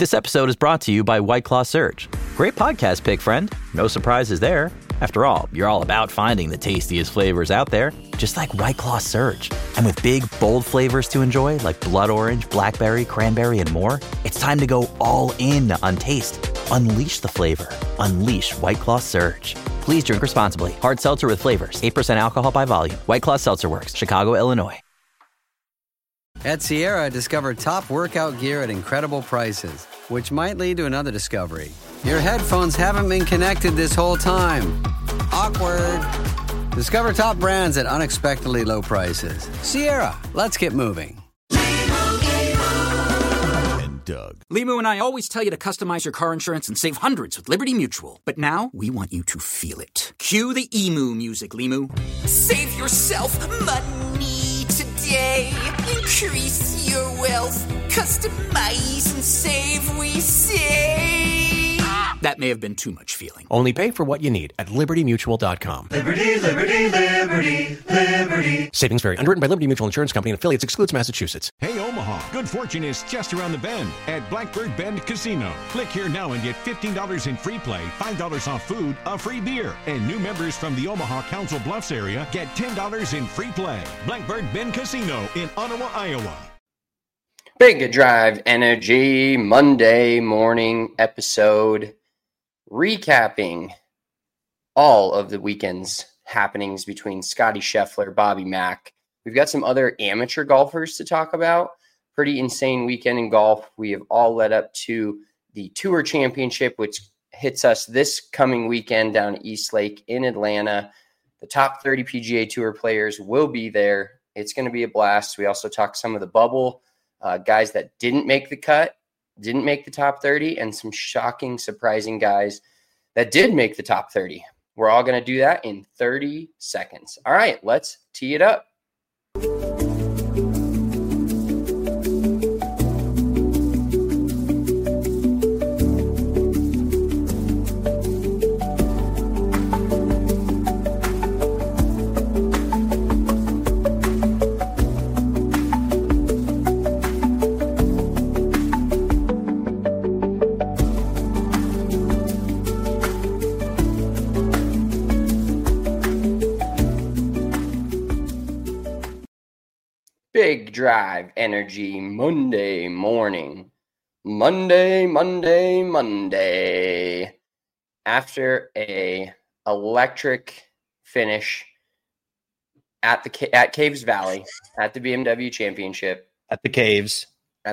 This episode is brought to you by White Claw Surge. Great podcast pick, friend. No surprises there. After all, you're all about finding the tastiest flavors out there, just like White Claw Surge. And with big, bold flavors to enjoy, like blood orange, blackberry, cranberry, and more, it's time to go all in on taste. Unleash the flavor. Unleash White Claw Surge. Please drink responsibly. Hard seltzer with flavors. 8% alcohol by volume. White Claw Seltzer Works. Chicago, Illinois. At Sierra, discover top workout gear at incredible prices, which might lead to another discovery. Your headphones haven't been connected this whole time. Awkward. Discover top brands at unexpectedly low prices. Sierra, let's get moving. Doug. Limu and I always tell you to customize your car insurance and save hundreds with Liberty Mutual. But now, we want you to feel it. Cue the emu music, Limu. Save yourself money today. Increase your wealth. Customize and save, we say. That may have been too much feeling. Only pay for what you need at LibertyMutual.com. Liberty, liberty, liberty, liberty. Savings vary. Underwritten by Liberty Mutual Insurance Company and affiliates. Excludes Massachusetts. Hey, Omaha, good fortune is just around the bend at Blackbird Bend Casino. Click here now and get $15 in free play, $5 off food, a free beer. And new members from the Omaha Council Bluffs area get $10 in free play. Blackbird Bend Casino in Ottawa, Iowa. Big Drive Energy Monday morning episode, recapping all of the weekend's happenings between Scotty Scheffler, Bobby Mack. We've got some other amateur golfers to talk about. Pretty insane weekend in golf. We have all led up to the Tour Championship, which hits us this coming weekend down at East Lake in Atlanta. The top 30 PGA Tour players will be there. It's going to be a blast. We also talk some of the bubble guys that didn't make the cut, didn't make the top 30, and some shocking, surprising guys that did make the top 30. We're all going to do that in 30 seconds. All right, let's tee it up. Big Drive Energy Monday morning. Monday. After a electric finish at Caves Valley at the BMW Championship. At the Caves.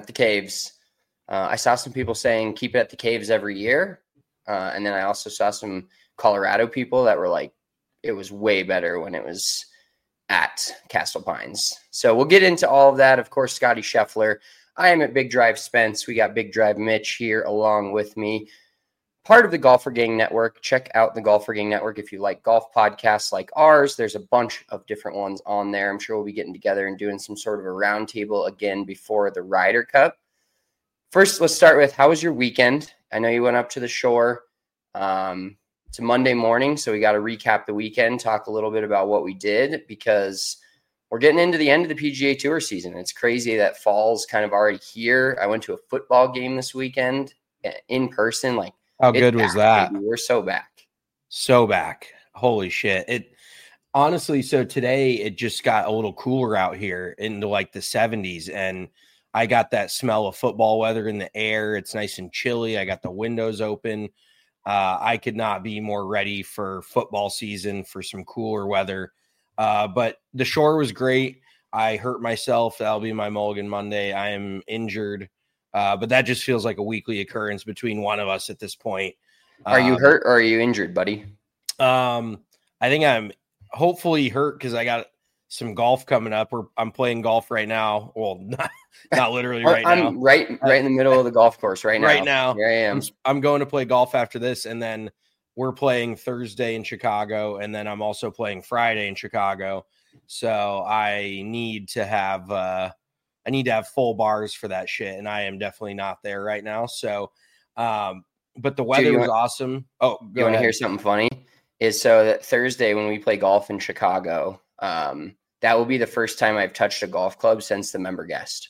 I saw some people saying keep it at the Caves every year. And then I also saw some Colorado people that were like, it was way better when it was at Castle Pines. So we'll get into all of that. Of course, Scotty Scheffler. I am at Big Drive Spence. We got Big Drive Mitch here along with me. Part of the Golfer Gang Network. Check out the Golfer Gang Network if you like golf podcasts like ours. There's a bunch of different ones on there. I'm sure we'll be getting together and doing some sort of a roundtable again before the Ryder Cup. First, let's start with, how was your weekend? I know you went up to the shore. It's a Monday morning, so we got to recap the weekend, talk a little bit about what we did, because we're getting into the end of the PGA Tour season. It's crazy that fall's kind of already here. I went to a football game this weekend in person. Like, how good was that? Baby. We're so back. So back. Holy shit. It honestly, so today it just got a little cooler out here into like the 70s, and I got that smell of football weather in the air. It's nice and chilly. I got the windows open. I could not be more ready for football season, for some cooler weather. But the shore was great. I hurt myself. That'll be my Mulligan Monday. I am injured. But that just feels like a weekly occurrence between one of us at this point. Are you hurt or are you injured, buddy? I think I'm hopefully hurt because I got some golf coming up. I'm playing golf right now. Well, not literally right now. I'm right in the middle of the golf course right now. Right now. Here I am. I'm going to play golf after this, and then we're playing Thursday in Chicago, and then I'm also playing Friday in Chicago. So I need to have full bars for that shit, and I am definitely not there right now. So, but the weather was awesome. Oh, you want to hear something funny? Is so that Thursday when we play golf in Chicago, that will be the first time I've touched a golf club since the member guest.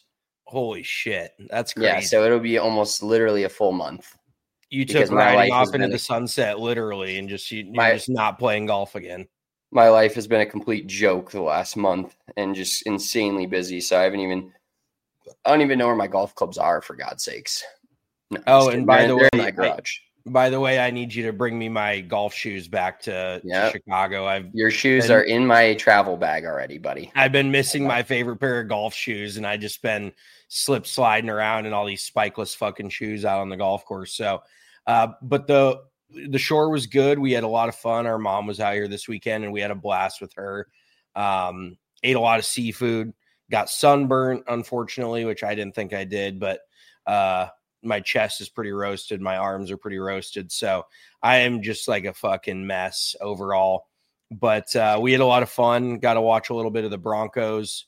Holy shit. That's crazy. Yeah, so it'll be almost literally a full month. You because took my riding life has off into been the sunset, literally, and you're My- just not playing golf again. My life has been a complete joke the last month and just insanely busy. So I don't even know where my golf clubs are, for God's sakes. No, I'm just And kidding. by They're the in way, my garage. By the way, I need you to bring me my golf shoes back to Yep. Chicago. Your shoes are in my travel bag already, buddy. I've been missing my favorite pair of golf shoes, and I just been slip sliding around in all these spikeless fucking shoes out on the golf course. So, but the shore was good. We had a lot of fun. Our mom was out here this weekend, and we had a blast with her. Ate a lot of seafood. Got sunburnt, unfortunately, which I didn't think I did, but my chest is pretty roasted. My arms are pretty roasted. So I am just like a fucking mess overall. But we had a lot of fun. Got to watch a little bit of the Broncos.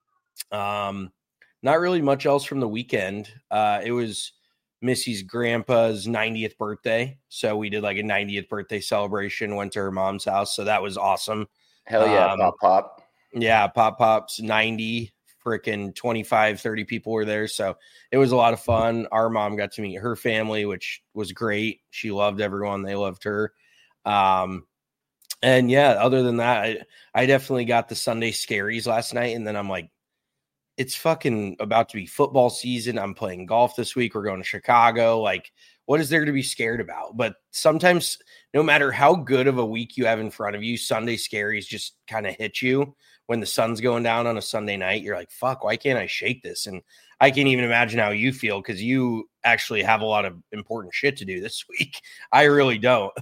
Not really much else from the weekend. It was Missy's grandpa's 90th birthday. So we did like a 90th birthday celebration, went to her mom's house. So that was awesome. Hell yeah, Pop. Yeah, Pop's 90, freaking 25, 30 people were there. So it was a lot of fun. Our mom got to meet her family, which was great. She loved everyone. They loved her. And yeah, other than that, I definitely got the Sunday scaries last night. And then I'm like, it's fucking about to be football season. I'm playing golf this week. We're going to Chicago. Like, what is there to be scared about? But sometimes, no matter how good of a week you have in front of you, Sunday scaries just kind of hit you. When the sun's going down on a Sunday night, you're like, fuck, why can't I shake this? And I can't even imagine how you feel because you actually have a lot of important shit to do this week. I really don't.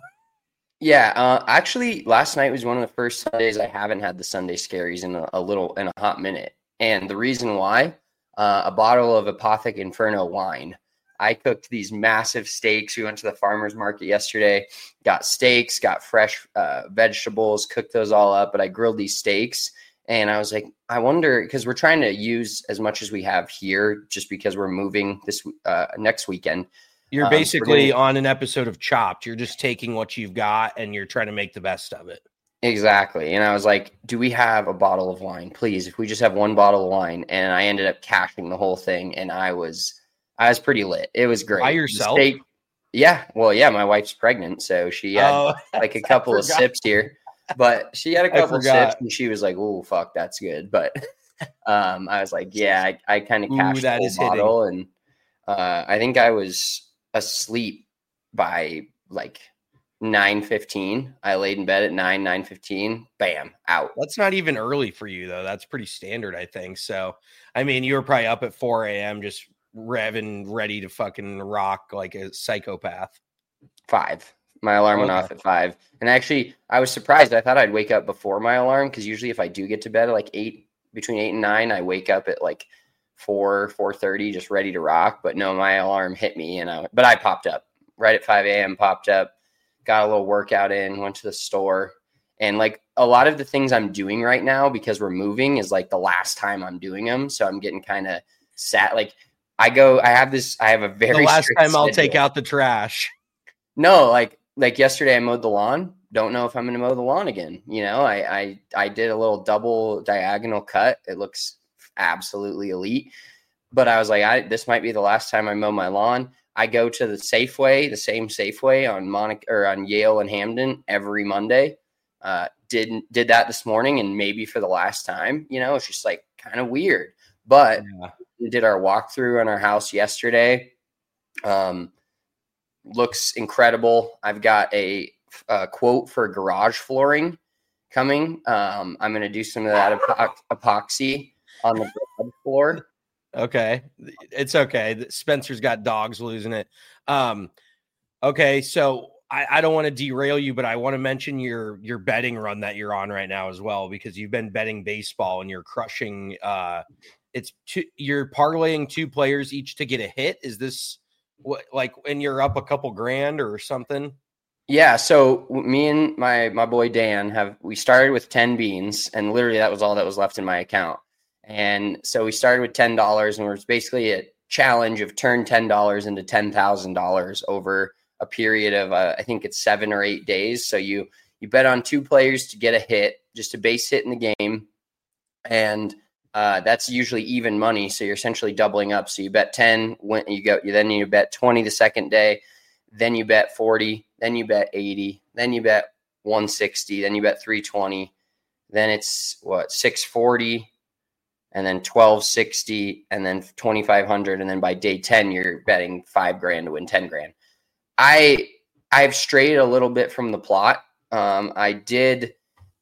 Yeah, actually, last night was one of the first Sundays I haven't had the Sunday scaries in a hot minute. And the reason why, a bottle of Apothic Inferno wine. I cooked these massive steaks. We went to the farmer's market yesterday, got steaks, got fresh vegetables, cooked those all up. But I grilled these steaks. And I was like, I wonder, because we're trying to use as much as we have here just because we're moving this next weekend. You're basically on an episode of Chopped. You're just taking what you've got and you're trying to make the best of it. Exactly. And I was like, do we have a bottle of wine? Please, if we just have one bottle of wine. And I ended up cashing the whole thing. And I was pretty lit. It was great. By yourself? Yeah. Well, yeah, my wife's pregnant. So she had like a couple of sips here. But she had a couple of sips and she was like, oh, fuck, that's good. But I was like, yeah, I kind of cashed the whole bottle. And I think I was asleep by like 9:15. I laid in bed at 9:15. Bam, out. That's not even early for you, though. That's pretty standard, I think. So, I mean, you were probably up at 4 a.m. just revving, ready to fucking rock like a psychopath. 5. My alarm went off at 5. And actually, I was surprised. I thought I'd wake up before my alarm because usually if I do get to bed at like 8, between 8 and 9, I wake up at like 4:30, just ready to rock. But no, my alarm hit me, but I popped up right at 5 a.m. Popped up, got a little workout in, went to the store, and like a lot of the things I'm doing right now because we're moving is like the last time I'm doing them, so I'm getting kind of sad. Like I have a very the last time I'll schedule. take out the trash. No, like yesterday I mowed the lawn. Don't know if I'm going to mow the lawn again. You know, I did a little double diagonal cut. It looks absolutely elite. But I was like, this might be the last time I mow my lawn. I go to the Safeway, the same Safeway on Yale and Hamden every Monday. Did that this morning and maybe for the last time. You know, it's just like kind of weird. But we did our walkthrough on our house yesterday. Looks incredible. I've got a quote for garage flooring coming. I'm going to do some of that epoxy on the garage floor. Okay. It's okay. Spencer's got dogs losing it. Okay. So I don't want to derail you, but I want to mention your betting run that you're on right now as well, because you've been betting baseball and you're crushing. You're parlaying 2 players each to get a hit. Is this what, like when you're up a couple grand or something? Yeah. So me and my boy Dan we started with 10 beans, and literally that was all that was left in my account. And so we started with $10, and it was basically a challenge of turn $10 into $10,000 over a period of I think it's 7 or 8 days. So you bet on 2 players to get a hit, just a base hit in the game. And That's usually even money. So you're essentially doubling up. So you bet 10 when then you bet 20 the second day, then you bet 40, then you bet 80, then you bet 160, then you bet 320, then it's 640, and then 1260, and then 2,500. And then by day 10, you're betting $5,000 to win 10 grand. I've strayed a little bit from the plot. I get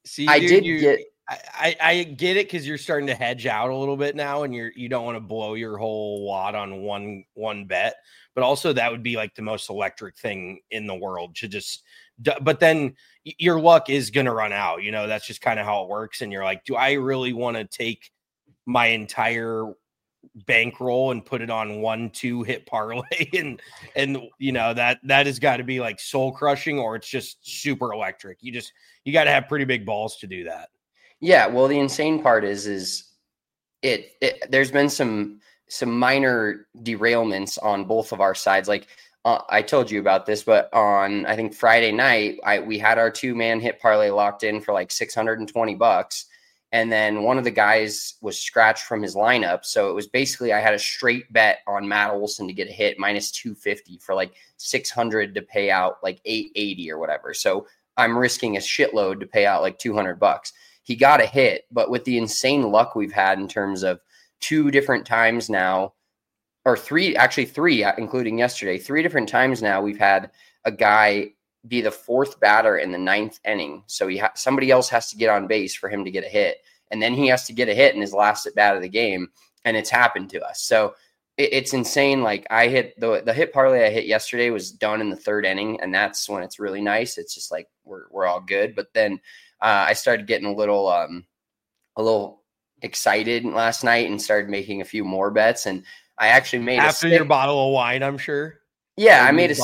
it because you're starting to hedge out a little bit now, and you don't want to blow your whole wad on one bet. But also that would be like the most electric thing in the world to just. But then your luck is going to run out. You know, that's just kind of how it works. And you're like, do I really want to take my entire bankroll and put it on 1-2 hit parlay? and you know, that has got to be like soul crushing, or it's just super electric. You got to have pretty big balls to do that. Yeah. Well, the insane part is there's been some minor derailments on both of our sides. Like, I told you about this, but on, I think Friday night, we had our 2-man hit parlay locked in for like $620. And then one of the guys was scratched from his lineup. So it was basically, I had a straight bet on Matt Olson to get a hit minus 250 for like 600 to pay out like 880 or whatever. So I'm risking a shitload to pay out like $200. He got a hit, but with the insane luck we've had in terms of 2 different times now, or 3, including yesterday, 3 different times now, we've had a guy be the 4th batter in the 9th inning. So somebody else has to get on base for him to get a hit. And then he has to get a hit in his last at bat of the game. And it's happened to us. So it's insane. Like, I hit the hit parlay I hit yesterday was done in the 3rd inning. And that's when it's really nice. It's just like, we're all good. But then I started getting a little excited last night and started making a few more bets. And I actually made after your bottle of wine, I'm sure. Yeah, I made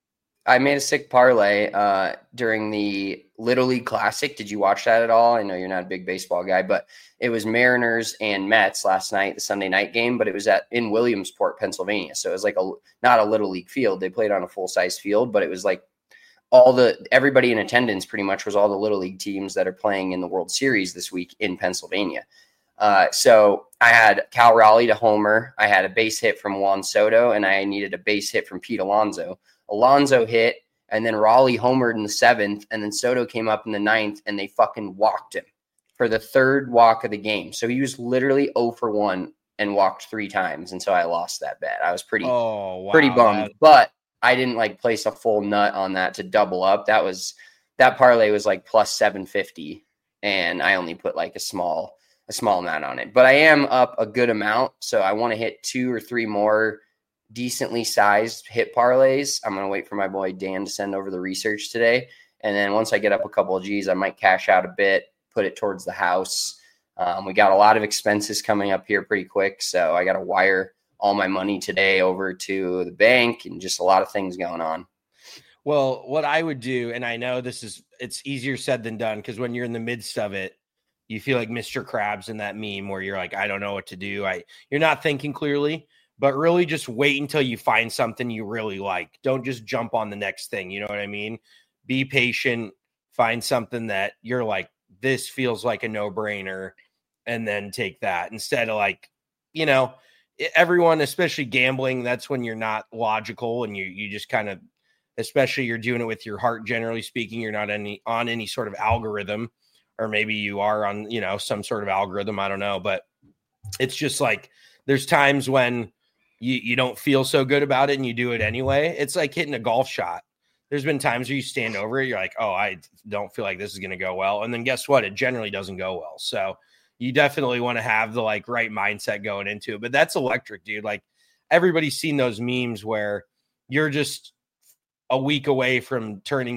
a sick parlay during the Little League Classic. Did you watch that at all? I know you're not a big baseball guy, but it was Mariners and Mets last night, the Sunday night game, but it was in Williamsport, Pennsylvania. So it was like not a Little League field. They played on a full-size field, but it was like everybody in attendance pretty much was all the Little League teams that are playing in the World Series this week in Pennsylvania. So I had Cal Raleigh to homer. I had a base hit from Juan Soto, and I needed a base hit from Pete Alonso. Alonso hit, and then Raleigh homered in the 7th, and then Soto came up in the 9th, and they fucking walked him for the 3rd walk of the game. So he was literally 0 for 1 and walked 3 times, and so I lost that bet. I was pretty bummed, but I didn't like place a full nut on that to double up. That parlay was like plus 750, and I only put like a small amount on it. But I am up a good amount, so I want to hit 2 or 3 more decently sized hit parlays. I'm going to wait for my boy Dan to send over the research today. And then once I get up a couple of G's, I might cash out a bit, put it towards the house. We got a lot of expenses coming up here pretty quick. So I got to wire all my money today over to the bank and just a lot of things going on. Well, what I would do, and I know it's easier said than done, because when you're in the midst of it, you feel like Mr. Krabs in that meme where you're like, I don't know what to do. You're not thinking clearly. But really just wait until you find something you really like. Don't just jump on the next thing. You know what I mean? Be patient. Find something that you're like, this feels like a no-brainer, and then take that. Instead of like, you know, everyone, especially gambling, that's when you're not logical and you just kind of, especially you're doing it with your heart, generally speaking, you're not on any sort of algorithm, or maybe you are on, you know, some sort of algorithm. I don't know. But it's just like, there's times when you don't feel so good about it and you do it anyway. It's like hitting a golf shot. There's been times where you stand over it, you're like, oh, I don't feel like this is going to go well. And then guess what? It generally doesn't go well. So you definitely want to have the like right mindset going into it. But that's electric, dude. Like, everybody's seen those memes where you're just a week away from turning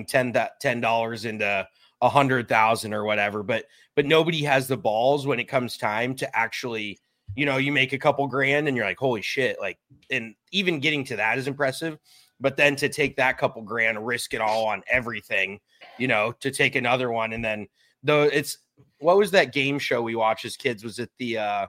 $10 into 100,000 or whatever. But nobody has the balls when it comes time to actually, you know, you make a couple grand and you're like, holy shit. Like, and even getting to that is impressive. But then to take that couple grand, risk it all on everything, you know, to take another one. And then what was that game show we watched as kids? Was it the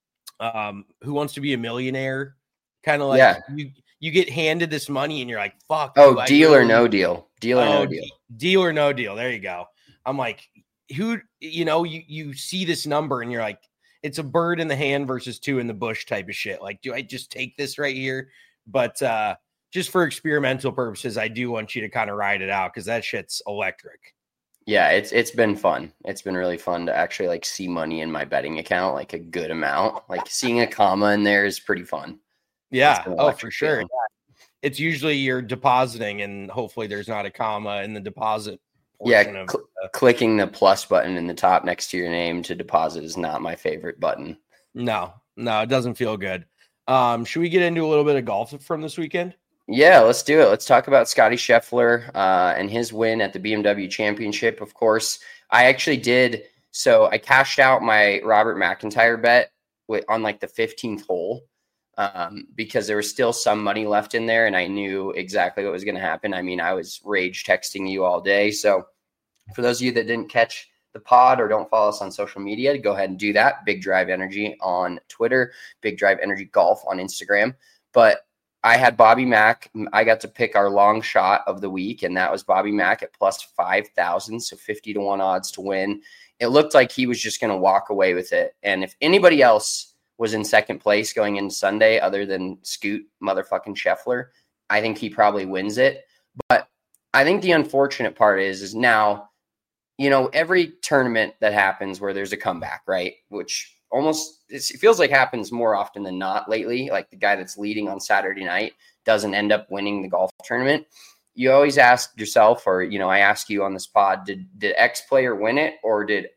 Who Wants to Be a Millionaire? Kind of like, yeah. You get handed this money and you're like, fuck. Oh, Deal or No Deal. Deal or No Deal. Deal or No Deal. There you go. I'm like, who, you know, you see this number and you're like, it's a bird in the hand versus 2 in the bush type of shit. Like, do I just take this right here? But just for experimental purposes, I do want you to kind of ride it out because that shit's electric. Yeah, it's been fun. It's been really fun to actually like see money in my betting account, like a good amount. Like seeing a comma in there is pretty fun. Yeah. Oh, for sure. Yeah. It's usually you're depositing and hopefully there's not a comma in the deposit. Yeah. Clicking the plus button in the top next to your name to deposit is not my favorite button. No, it doesn't feel good. Should we get into a little bit of golf from this weekend? Yeah, let's do it. Let's talk about Scotty Scheffler and his win at the BMW Championship. Of course, I actually did. So I cashed out my Robert McIntyre bet on like the 15th hole because there was still some money left in there, and I knew exactly what was going to happen. I mean, I was rage texting you all day. So for those of you that didn't catch the pod or don't follow us on social media, go ahead and do that. Big Drive Energy on Twitter, Big Drive Energy Golf on Instagram. But I had Bobby Mack. I got to pick our long shot of the week, and that was Bobby Mack at plus 5,000, so 50-1 odds to win. It looked like he was just going to walk away with it. And if anybody else was in second place going into Sunday other than Scoot motherfucking Scheffler, I think he probably wins it. But I think the unfortunate part is now, you know, every tournament that happens where there's a comeback, right, which almost it feels like happens more often than not lately. Like the guy that's leading on Saturday night doesn't end up winning the golf tournament. You always ask yourself, or, you know, I ask you on this pod, did X player win it, or did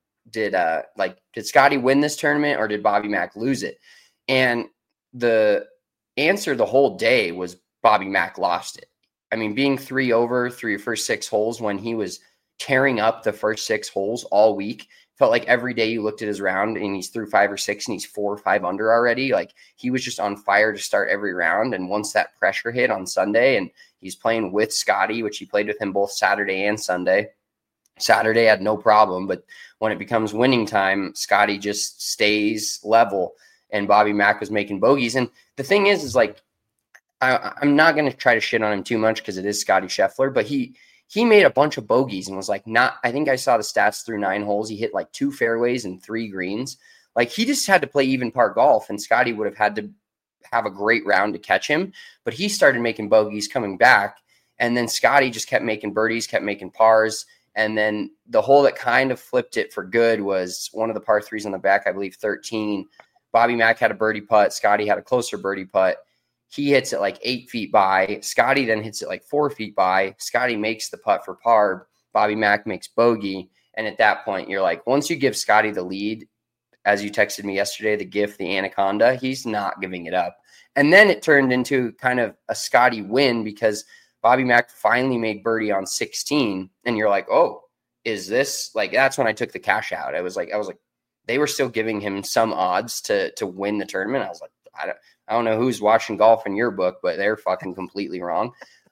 Scotty win this tournament, or did Bobby Mack lose it? And the answer the whole day was Bobby Mack lost it. I mean, being 3 over through your first 6 holes when he was tearing up the first 6 holes all week. Felt like every day you looked at his round and he's through 5 or 6 and he's 4 or 5 under already. Like he was just on fire to start every round. And once that pressure hit on Sunday, and he's playing with Scotty, which he played with him both Saturday and Sunday. Saturday had no problem, but when it becomes winning time, Scotty just stays level, and Bobby Mack was making bogeys. And the thing is like, I'm not going to try to shit on him too much because it is Scotty Scheffler, but he made a bunch of bogeys and was like, I think I saw the stats through 9 holes. He hit like 2 fairways and 3 greens. Like he just had to play even par golf, and Scotty would have had to have a great round to catch him. But he started making bogeys coming back. And then Scotty just kept making birdies, kept making pars. And then the hole that kind of flipped it for good was one of the par 3s on the back, I believe 13. Bobby Mack had a birdie putt. Scotty had a closer birdie putt. He hits it like 8 feet by. Scotty then hits it like 4 feet by. Scotty makes the putt for par. Bobby Mack makes bogey. And at that point, you're like, once you give Scotty the lead, as you texted me yesterday, the gift, the anaconda, he's not giving it up. And then it turned into kind of a Scotty win because Bobby Mack finally made birdie on 16. And you're like, oh, is this like, that's when I took the cash out. I was like, they were still giving him some odds to win the tournament. I was like, I don't know who's watching golf in your book, but they're fucking completely wrong.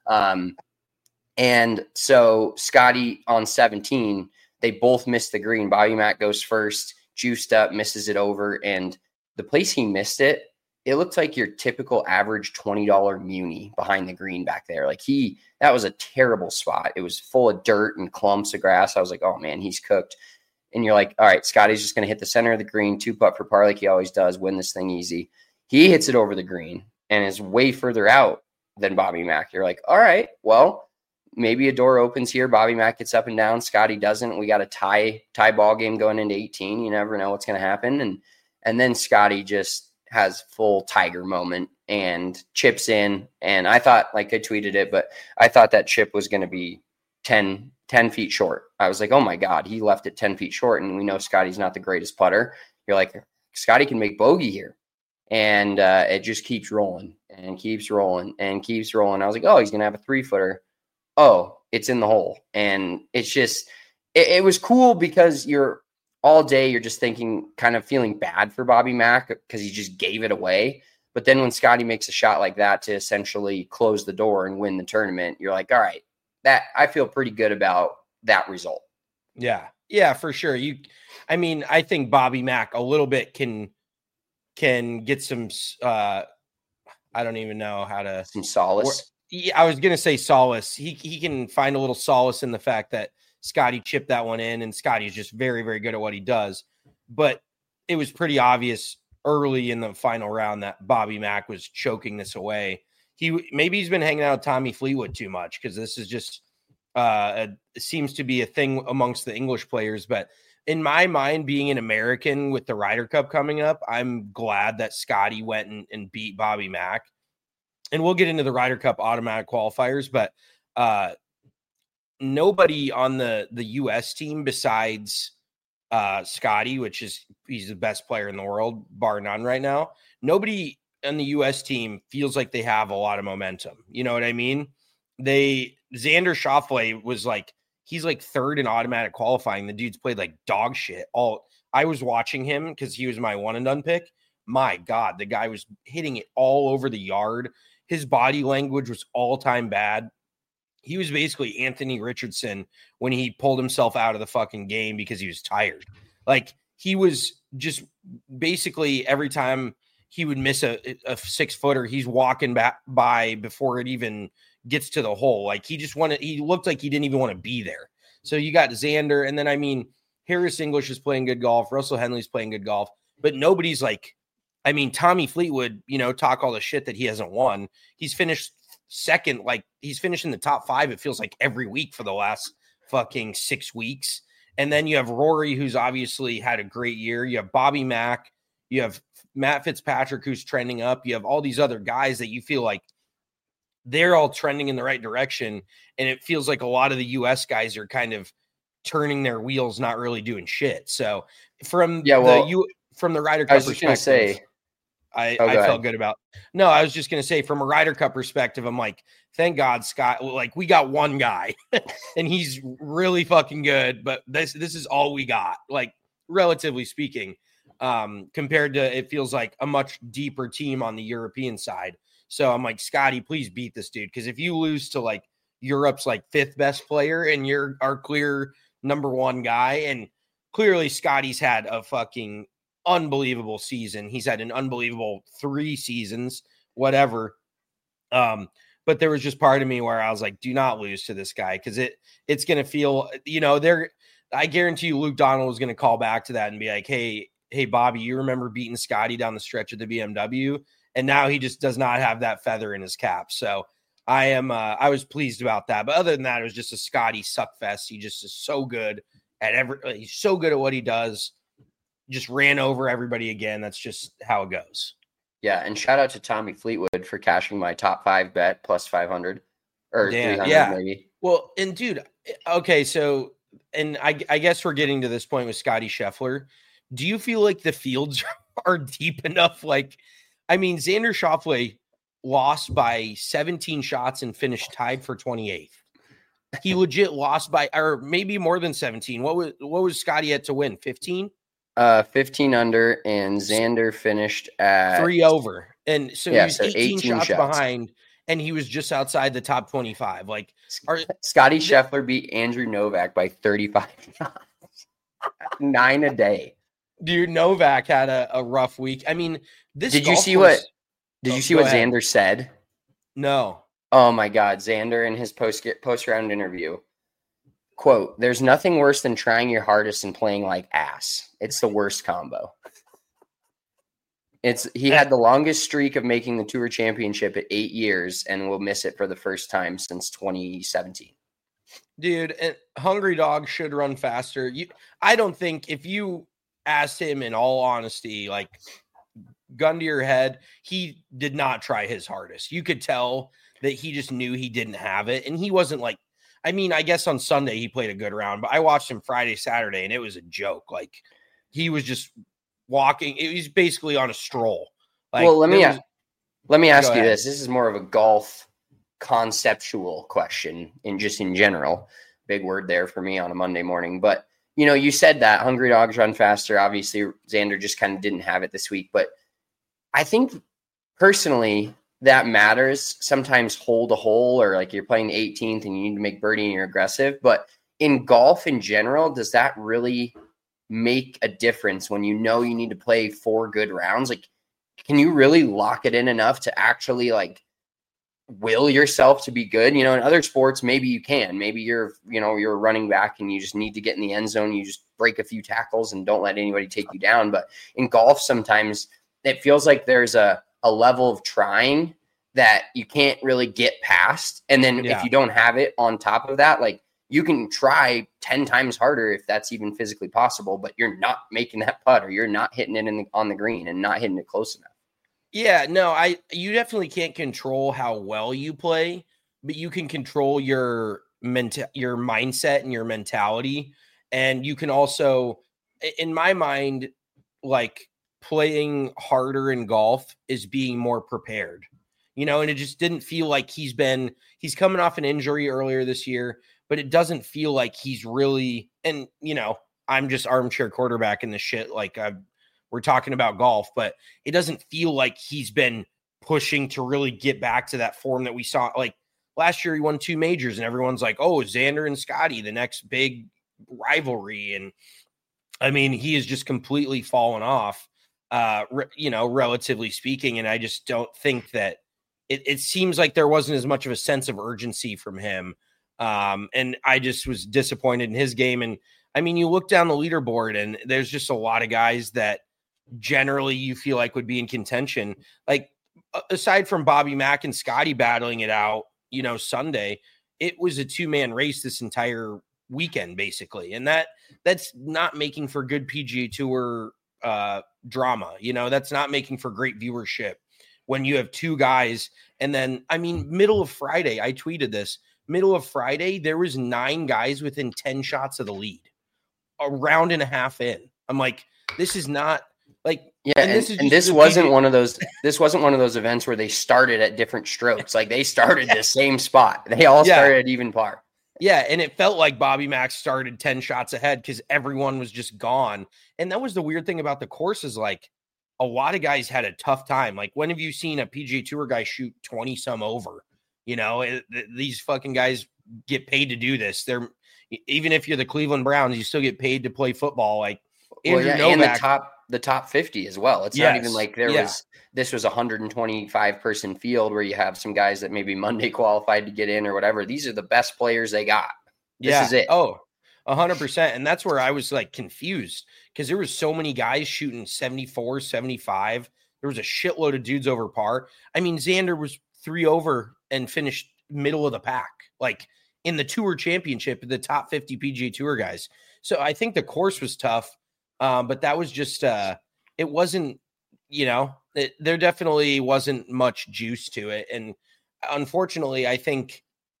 And so Scotty on 17, they both missed the green. Bobby Mack goes first, juiced up, misses it over. And the place he missed it, it looked like your typical average $20 Muni behind the green back there. Like that was a terrible spot. It was full of dirt and clumps of grass. I was like, oh man, he's cooked. And you're like, all right, Scotty's just going to hit the center of the green, 2-putt for par like he always does, win this thing easy. He hits it over the green and is way further out than Bobby Mack. You're like, all right, well, maybe a door opens here. Bobby Mack gets up and down. Scotty doesn't. We got a tie ball game going into 18. You never know what's going to happen. And then Scotty just has full Tiger moment and chips in. And I thought, like I tweeted it, but I thought that chip was going to be 10 feet short. I was like, oh my God, he left it 10 feet short. And we know Scotty's not the greatest putter. You're like, Scotty can make bogey here. And it just keeps rolling and keeps rolling and keeps rolling. I was like, oh, he's going to have a 3-footer. Oh, it's in the hole. And it's just, it was cool because you're all day, you're just thinking, kind of feeling bad for Bobby Mack because he just gave it away. But then when Scotty makes a shot like that to essentially close the door and win the tournament, you're like, all right, that I feel pretty good about that result. Yeah, for sure. I think Bobby Mack a little bit can get some, I don't even know how to. Some solace. I was going to say solace. He can find a little solace in the fact that Scotty chipped that one in, and Scotty's just very, very good at what he does. But it was pretty obvious early in the final round that Bobby Mack was choking this away. Maybe he's been hanging out with Tommy Fleetwood too much, because this is just seems to be a thing amongst the English players. But in my mind, being an American with the Ryder Cup coming up, I'm glad that Scotty went and beat Bobby Mack. And we'll get into the Ryder Cup automatic qualifiers, but nobody on the U.S. team besides Scotty, he's the best player in the world, bar none right now. Nobody on the U.S. team feels like they have a lot of momentum. You know what I mean? Xander Schauffele was he's third in automatic qualifying. The dude's played like dog shit. I was watching him because he was my one and done pick. My God, the guy was hitting it all over the yard. His body language was all time bad. He was basically Anthony Richardson when he pulled himself out of the fucking game because he was tired. He was just basically every time he would miss a 6-footer, he's walking back by before it even gets to the hole. He looked like he didn't even want to be there. So you got Xander. And then, Harris English is playing good golf. Russell Henley's playing good golf, but nobody's Tommy Fleetwood, talk all the shit that he hasn't won. He's finished second. He's finishing the top 5. It feels like every week for the last fucking 6 weeks. And then you have Rory, who's obviously had a great year. You have Bobby Mack. You have Matt Fitzpatrick, who's trending up. You have all these other guys that you feel like they're all trending in the right direction. And it feels like a lot of the U.S. guys are kind of turning their wheels, not really doing shit. So from the Ryder Cup perspective, I felt good about. No, I was just going to say, from a Ryder Cup perspective, I'm like, thank God, Scott. We got one guy, and he's really fucking good. But this is all we got, relatively speaking, compared to, it feels like a much deeper team on the European side. So I'm like, Scotty, please beat this dude, because if you lose to Europe's 5th best player and you're our clear number 1 guy, and clearly Scotty's had a fucking unbelievable season. He's had an unbelievable 3 seasons, whatever. But there was just part of me where I was like, do not lose to this guy, because it's going to feel, I guarantee you Luke Donald was going to call back to that and be like, hey, Bobby, you remember beating Scotty down the stretch of the BMW? And now he just does not have that feather in his cap. So I was pleased about that. But other than that, it was just a Scotty suck fest. He just is so good he's so good at what he does. Just ran over everybody again. That's just how it goes. Yeah, and shout out to Tommy Fleetwood for cashing my top 5 bet plus 500 or 300 maybe. Well, and dude, okay, so and I guess we're getting to this point with Scotty Scheffler. Do you feel like the fields are deep enough? Xander Schauffele lost by 17 shots and finished tied for 28th. He legit lost by, or maybe more than 17. What was Scotty at to win? 15? 15 under, and Xander finished at 3 over. And so he was 18 shots behind, and he was just outside the top 25. Scotty Scheffler beat Andrew Novak by 35 shots. 9 a day. Dude, Novak had a rough week. Did you see what Xander said? No. Oh my God. Xander in his post-round interview, quote, "There's nothing worse than trying your hardest and playing like ass. It's the worst combo." He had the longest streak of making the Tour Championship at 8 years and will miss it for the first time since 2017. Dude, and Hungry Dog should run faster. I don't think, if you asked him in all honesty, gun to your head, he did not try his hardest. You could tell that he just knew he didn't have it. And he wasn't I guess on Sunday he played a good round, but I watched him Friday, Saturday, and it was a joke. He was just walking. It was basically on a stroll. Well, let me ask you this. This is more of a golf conceptual question in general. Big word there for me on a Monday morning. But, you said that Hungry Dogs run faster. Obviously, Xander just kind of didn't have it this week. But I think personally that matters. Sometimes hole to hole, or you're playing the 18th and you need to make birdie and you're aggressive. But in golf in general, does that really make a difference when you need to play 4 good rounds? Can you really lock it in enough to actually will yourself to be good? In other sports, maybe you can. Maybe you're a running back and you just need to get in the end zone. You just break a few tackles and don't let anybody take you down. But in golf, sometimes it feels like there's a level of trying that you can't really get past. And then if you don't have it on top of that, like you can try 10 times harder if that's even physically possible, but you're not making that putt or you're not hitting it on the green and not hitting it close enough. Yeah, no, you definitely can't control how well you play, but you can control your mindset and your mentality. And you can also, in my mind, like playing harder in golf is being more prepared, and it just didn't feel like he's coming off an injury earlier this year, but it doesn't feel like he's really, and I'm just armchair quarterback in this shit. Like we're talking about golf, but it doesn't feel like he's been pushing to really get back to that form that we saw. Like last year, he won 2 majors and everyone's like, oh, Xander and Scotty, the next big rivalry. And I mean, he has just completely fallen off, relatively speaking. And I just don't think that it seems like there wasn't as much of a sense of urgency from him. And I just was disappointed in his game. And I mean, you look down the leaderboard and there's just a lot of guys that generally you feel like would be in contention. Like aside from Bobby Mack and Scotty battling it out, Sunday, it was a 2-man race this entire weekend, basically. And that's not making for good PGA Tour drama. That's not making for great viewership when you have 2 guys. And then, I mean, middle of Friday, I tweeted this, middle of Friday, there was 9 guys within 10 shots of the lead, a round and a half in. I'm like, this is not like, yeah. And this wasn't one of those events where they started at different strokes. Like they started the same spot. They all started at even par. Yeah. And it felt like Bobby Mack started 10 shots ahead because everyone was just gone. And that was the weird thing about the course is like a lot of guys had a tough time. Like when have you seen a PGA Tour guy shoot 20 some over? These fucking guys get paid to do this. Even if you're the Cleveland Browns, you still get paid to play football. Like Andrew Novak, and the top 50 as well. It's not even like this was a 125 person field where you have some guys that maybe Monday qualified to get in or whatever. These are the best players they got. This is it. Oh, 100%. And that's where I was like confused because there was so many guys shooting 74, 75. There was a shitload of dudes over par. I mean, Xander was 3 over and finished middle of the pack, like in the Tour Championship, the top 50 PGA Tour guys. So I think the course was tough, but that was just it wasn't, there definitely wasn't much juice to it. And unfortunately, I think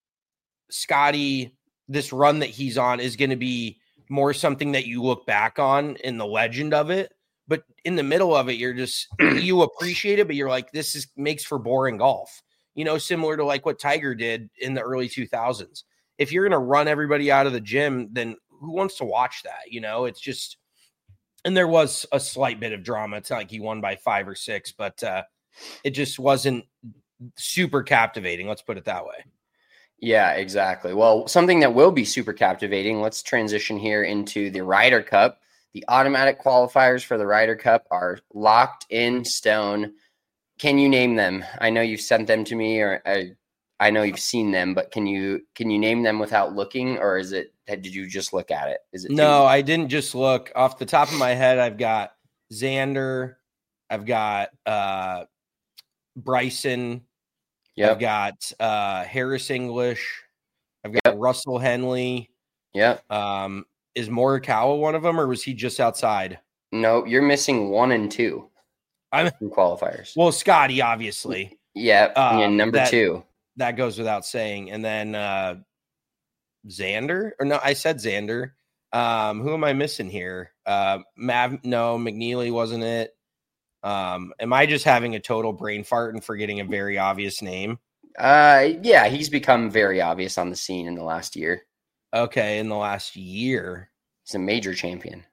Scotty, this run that he's on is going to be more something that you look back on in the legend of it. But in the middle of it, you're just, you appreciate it, but you're like, makes for boring golf, similar to like what Tiger did in the early 2000s. If you're going to run everybody out of the gym, then who wants to watch that? It's just, and there was a slight bit of drama. It's not like he won by 5 or 6, but it just wasn't super captivating. Let's put it that way. Yeah, exactly. Well, something that will be super captivating. Let's transition here into the Ryder Cup. The automatic qualifiers for the Ryder Cup are locked in stone. Can you name them? I know you've sent them to me, or I know you've seen them, but can you name them without looking, or did you just look at it? Is it No, I didn't just look. Off the top of my head, I've got Xander, I've got Bryson, I've got Harris English, I've got Russell Henley. Yeah. Is Morikawa one of them, or was he just outside? No, you're missing 1 and 2. I'm in qualifiers. Well, Scotty, obviously. Yeah, number 2. That goes without saying. And then Xander, or no, I said Xander. Who am I missing here? McNeely wasn't it? Am I just having a total brain fart and forgetting a very obvious name? Yeah, he's become very obvious on the scene in the last year. Okay, in the last year. He's a major champion.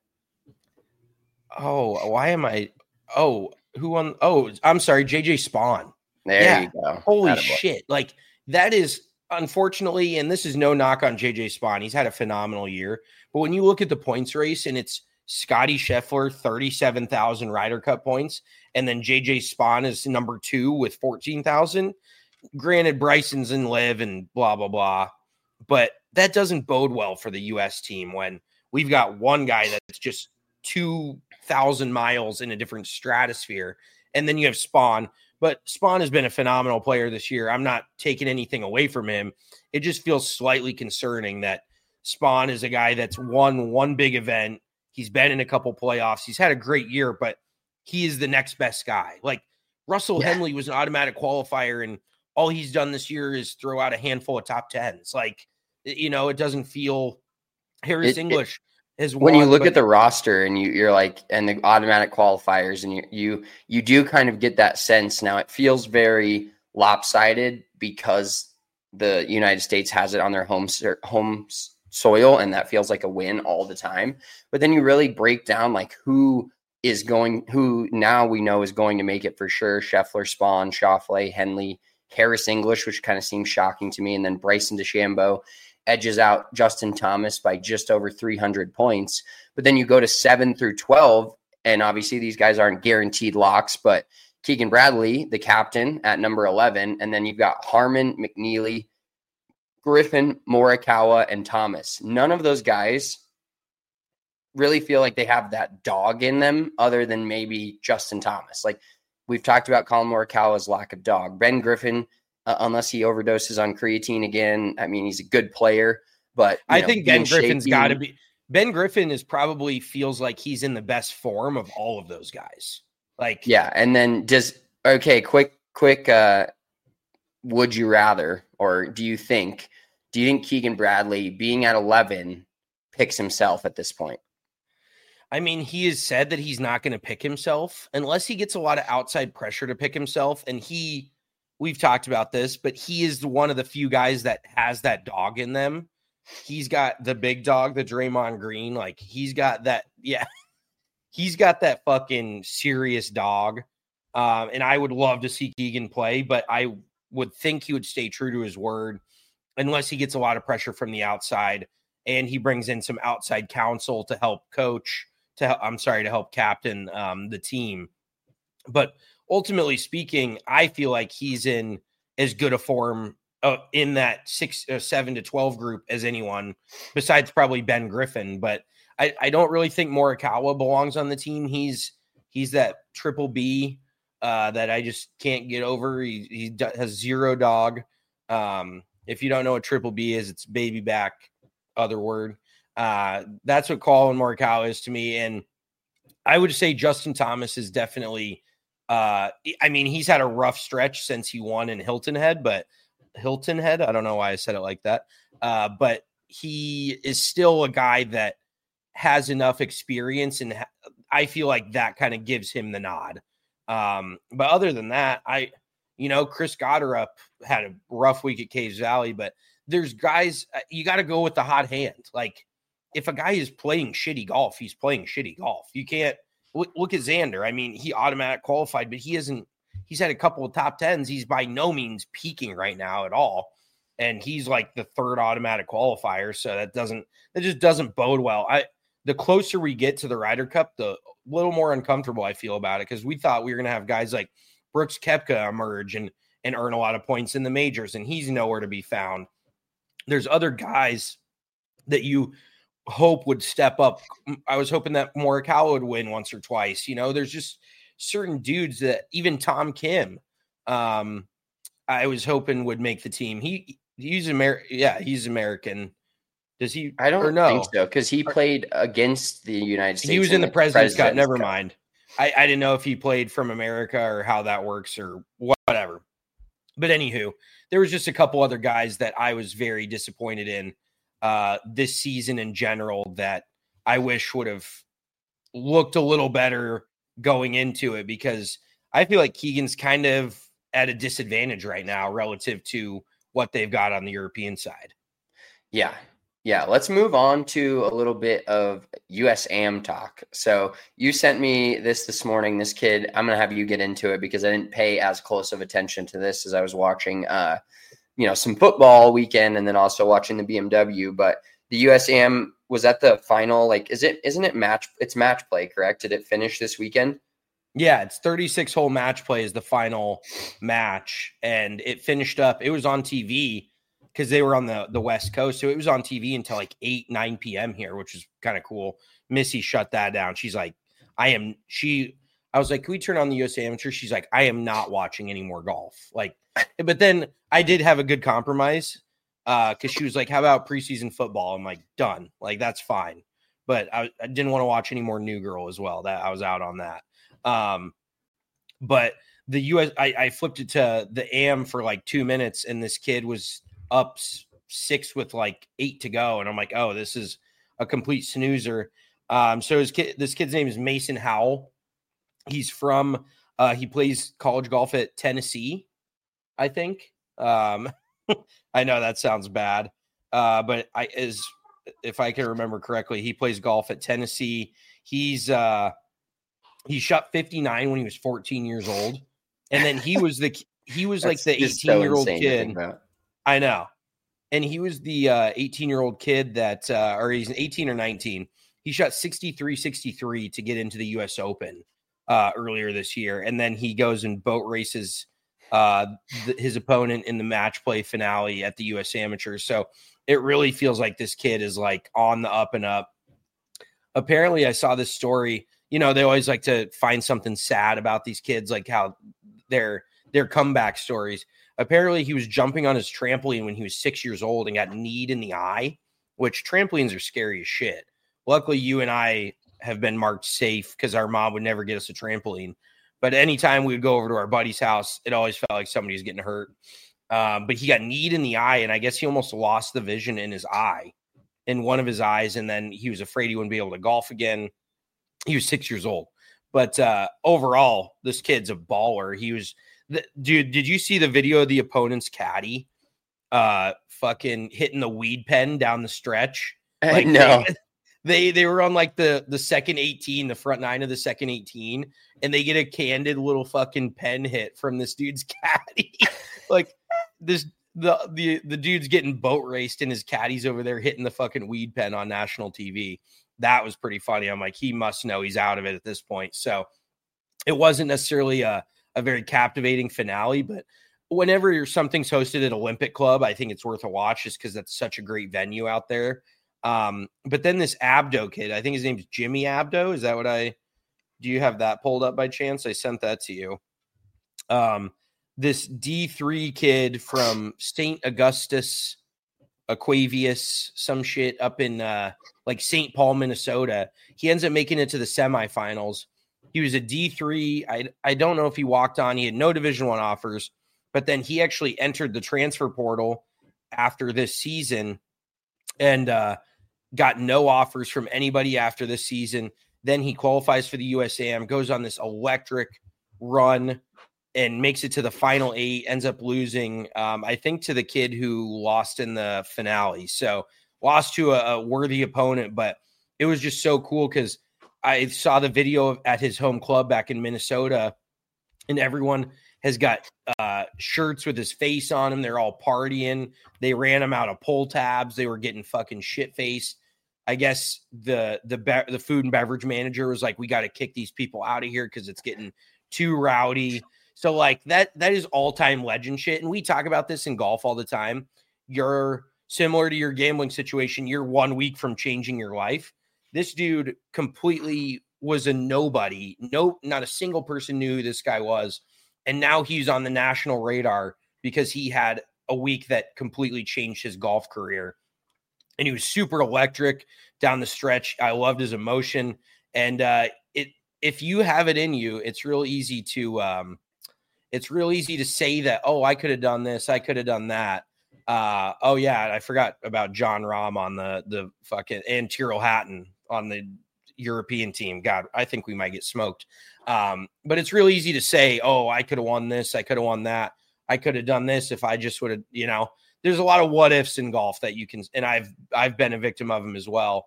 Oh, why am I? Oh, who won? Oh, I'm sorry, JJ Spawn. There you go. Holy shit. Like, that is, unfortunately, and this is no knock on JJ Spawn. He's had a phenomenal year. But when you look at the points race and it's Scotty Scheffler, 37,000 Ryder Cup points, and then JJ Spawn is number 2 with 14,000. Granted, Bryson's in live and blah, blah, blah. But that doesn't bode well for the U.S. team when we've got one guy that's just 2,000 miles in a different stratosphere. And then you have Spawn. But Spawn has been a phenomenal player this year. I'm not taking anything away from him. It just feels slightly concerning that Spawn is a guy that's won one big event. He's been in a couple playoffs. He's had a great year, but he is the next best guy. Like Russell Henley was an automatic qualifier, and all he's done this year is throw out a handful of top 10s. Like, it doesn't feel Harris English has won. When you look at the roster and you're like, and the automatic qualifiers, and you do kind of get that sense. Now it feels very lopsided because the United States has it on their home soil, and that feels like a win all the time. But then you really break down like who now we know is going to make it for sure. Scheffler, Spawn, Schauffele, Henley, Harris English, which kind of seems shocking to me. And then Bryson DeChambeau edges out Justin Thomas by just over 300 points. But then you go to 7 through 12, and obviously these guys aren't guaranteed locks, but Keegan Bradley, the captain, at number 11. And then you've got Harman, McNeely, Griffin, Morikawa, and Thomas. None of those guys really feel like they have that dog in them other than maybe Justin Thomas. Like we've talked about Colin Morikawa's lack of dog. Ben Griffin, unless he overdoses on creatine again, I mean, he's a good player, but I think Ben Griffin's got to be. Ben Griffin is probably feels like he's in the best form of all of those guys. Like, yeah. And then quick, would you rather, or do you think Keegan Bradley being at 11 picks himself at this point? I mean, he has said that he's not going to pick himself unless he gets a lot of outside pressure to pick himself. And we've talked about this, but he is one of the few guys that has that dog in them. He's got the big dog, the Draymond Green. Like he's got that. Yeah. He's got that fucking serious dog. And I would love to see Keegan play, but I would think he would stay true to his word unless he gets a lot of pressure from the outside and he brings in some outside counsel to help coach, to help captain the team. But ultimately speaking, I feel like he's in as good a form in that 7 to 12 group as anyone besides probably Ben Griffin. But I don't really think Morikawa belongs on the team. He's that triple B that I just can't get over. He has zero dog. If you don't know what triple B is, it's baby back, other word. That's what Colin Morikawa is to me. And I would say Justin Thomas is definitely, I mean, he's had a rough stretch since he won in Hilton Head. I don't know why I said it like that. But he is still a guy that has enough experience, and I feel like that kind of gives him the nod. But other than that, Chris Gotterup had a rough week at Caves Valley, but there's guys, you got to go with the hot hand. Like if a guy is playing shitty golf, he's playing shitty golf. You can't look at Xander. I mean, he automatic qualified, but he's had a couple of top 10s. He's by no means peaking right now at all. And he's like the third automatic qualifier. So that just doesn't bode well. The closer we get to the Ryder Cup, the little more uncomfortable I feel about it. Cause we thought we were going to have guys like Brooks Koepka emerge and earn a lot of points in the majors, and he's nowhere to be found. There's other guys that you hope would step up. I was hoping that Morikawa would win once or twice. There's just certain dudes that even Tom Kim, I was hoping would make the team. He's American. Yeah, he's American. Does he? I don't think so, because he played against the United States. He was in the President's Cup. Never mind. I didn't know if he played from America or how that works or whatever. But anywho, there was just a couple other guys that I was very disappointed in this season in general that I wish would have looked a little better going into it, because I feel like Keegan's kind of at a disadvantage right now relative to what they've got on the European side. Yeah. Let's move on to a little bit of USAM talk. So you sent me this morning, this kid. I'm going to have you get into it because I didn't pay as close of attention to this as I was watching, some football weekend and then also watching the BMW. But the USAM was at the final. Like, isn't it match? It's match play, correct? Did it finish this weekend? Yeah, it's 36 hole match play is the final match, and it finished up. It was on TV. because they were on the West Coast. So it was on TV until like 9 p.m. here, which is kind of cool. Missy shut that down. She's like, I was like, can we turn on the USA Amateur? She's like, I am not watching any more golf. Like, but then I did have a good compromise because she was like, how about preseason football? I'm like, done. Like, that's fine. But I didn't want to watch any more New Girl as well. That I was out on that. But the US, I flipped it to the AM for like 2 minutes, and this kid was up 6 with like 8 to go. And I'm like, oh, this is a complete snoozer. So this kid's name is Mason Howell. He's from, he plays college golf at Tennessee, I think. I know that sounds bad, but if I can remember correctly, he plays golf at Tennessee. He shot 59 when he was 14 years old. And then he was like the 18-year-old kid. I know. And he was the 18-year-old kid that, or he's 18 or 19. He shot 63-63 to get into the US Open earlier this year. And then he goes and boat races his opponent in the match play finale at the US Amateur. So it really feels like this kid is like on the up and up. Apparently I saw this story, you know, they always like to find something sad about these kids, like how their comeback stories. Apparently he was jumping on his trampoline when he was 6 years old and got kneed in the eye, which trampolines are scary as shit. Luckily you and I have been marked safe because our mom would never get us a trampoline. But anytime we would go over to our buddy's house, it always felt like somebody was getting hurt. But he got kneed in the eye, and I guess he almost lost the vision in one of his eyes, and then he was afraid he wouldn't be able to golf again. He was 6 years old. But overall, this kid's a baller. Dude, did you see the video of the opponent's caddy fucking hitting the weed pen down the stretch? Like, no. They were on like the second 18, the front 9 of the second 18, and they get a candid little fucking pen hit from this dude's caddy. Like the dude's getting boat raced and his caddy's over there hitting the fucking weed pen on national TV. That was pretty funny. I'm like, he must know he's out of it at this point. So it wasn't necessarily a very captivating finale, but whenever something's hosted at Olympic Club, I think it's worth a watch just because that's such a great venue out there. But then this Abdo kid, I think his name's Jimmy Abdo. Is that do you have that pulled up by chance? I sent that to you. This D3 kid from St. Augustus, Aquavius, some shit up in like St. Paul, Minnesota. He ends up making it to the semifinals. He was a D3. I don't know if he walked on. He had no Division I offers, but then he actually entered the transfer portal after this season and got no offers from anybody after this season. Then he qualifies for the USAM, goes on this electric run and makes it to the final 8, ends up losing, I think, to the kid who lost in the finale. So lost to a worthy opponent, but it was just so cool because I saw the video at his home club back in Minnesota, and everyone has got shirts with his face on them. They're all partying. They ran him out of pull tabs. They were getting fucking shit-faced. I guess the food and beverage manager was like, we got to kick these people out of here because it's getting too rowdy. So like that is all-time legend shit. And we talk about this in golf all the time. You're similar to your gambling situation. You're 1 week from changing your life. This dude completely was a nobody. Not a single person knew who this guy was. And now he's on the national radar because he had a week that completely changed his golf career. And he was super electric down the stretch. I loved his emotion. And if you have it in you, it's real easy to say that, oh, I could have done this, I could have done that. Oh yeah, I forgot about John Rahm on the fucking, and Tyrrell Hatton on the European team. God, I think we might get smoked. But it's real easy to say, oh, I could have won this, I could have won that, I could have done this if I just would have, there's a lot of what ifs in golf that you can, and I've been a victim of them as well.